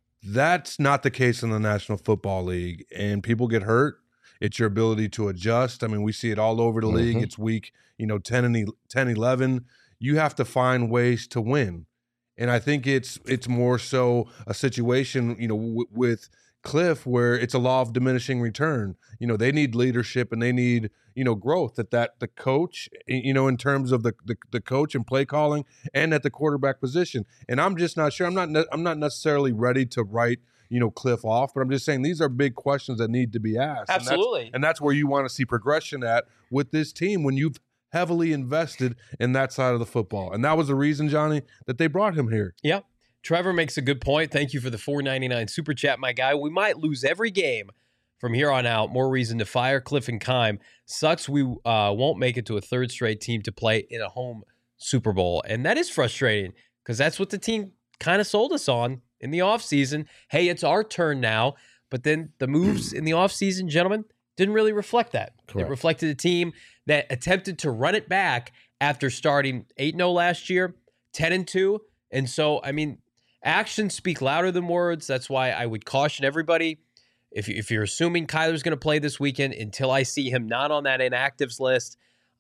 That's not the case in the National Football League, and people get hurt. It's your ability to adjust. I mean, we see it all over the league. It's week 10 and 11. You have to find ways to win, and I think it's more so a situation with Cliff where it's a law of diminishing return. They need leadership and they need growth that the coach, in terms of the coach and play calling, and at the quarterback position. And I'm just not sure. I'm not necessarily ready to write Cliff off, but I'm just saying these are big questions that need to be asked. Absolutely. And that's where you want to see progression at with this team when you've heavily invested in that side of the football. And that was the reason, Johnny, that they brought him here. Yeah. Trevor makes a good point. Thank you for the $4.99 super chat, my guy. We might lose every game from here on out. More reason to fire Cliff and Keim. Sucks we won't make it to a third straight team to play in a home Super Bowl. And that is frustrating because that's what the team kind of sold us on in the offseason. Hey, it's our turn now. But then the moves in the offseason, gentlemen, didn't really reflect that. Correct. It reflected a team that attempted to run it back after starting 8-0 last year, 10-2. And so, I mean, actions speak louder than words. That's why I would caution everybody, if you're assuming Kyler's going to play this weekend, until I see him not on that inactives list,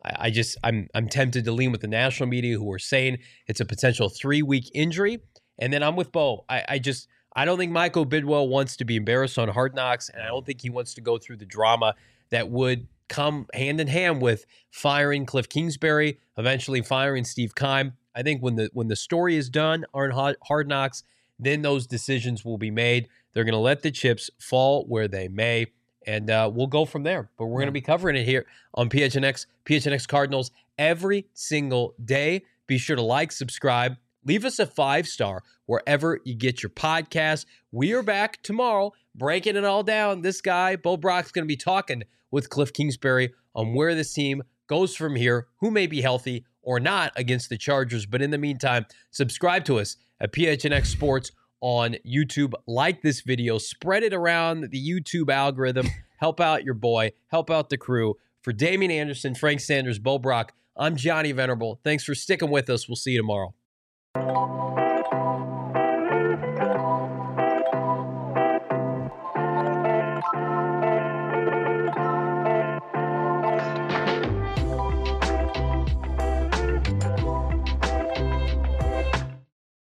I'm tempted to lean with the national media who are saying it's a potential 3-week injury. And then I'm with Bo. I don't think Michael Bidwell wants to be embarrassed on Hard Knocks, and I don't think he wants to go through the drama that would come hand in hand with firing Cliff Kingsbury, eventually firing Steve Keim. I think when the story is done on Hard Knocks, then those decisions will be made. They're going to let the chips fall where they may, and we'll go from there. But we're going to be covering it here on PHNX Cardinals every single day. Be sure to like, subscribe, leave us a 5-star wherever you get your podcast. We are back tomorrow breaking it all down. This guy, Bo Brock's going to be talking with Cliff Kingsbury on where this team goes from here, who may be healthy or not against the Chargers. But in the meantime, subscribe to us at PHNX Sports on YouTube. Like this video, spread it around the YouTube algorithm. Help out your boy, help out the crew. For Damian Anderson, Frank Sanders, Bo Brock, I'm Johnny Venerable. Thanks for sticking with us. We'll see you tomorrow.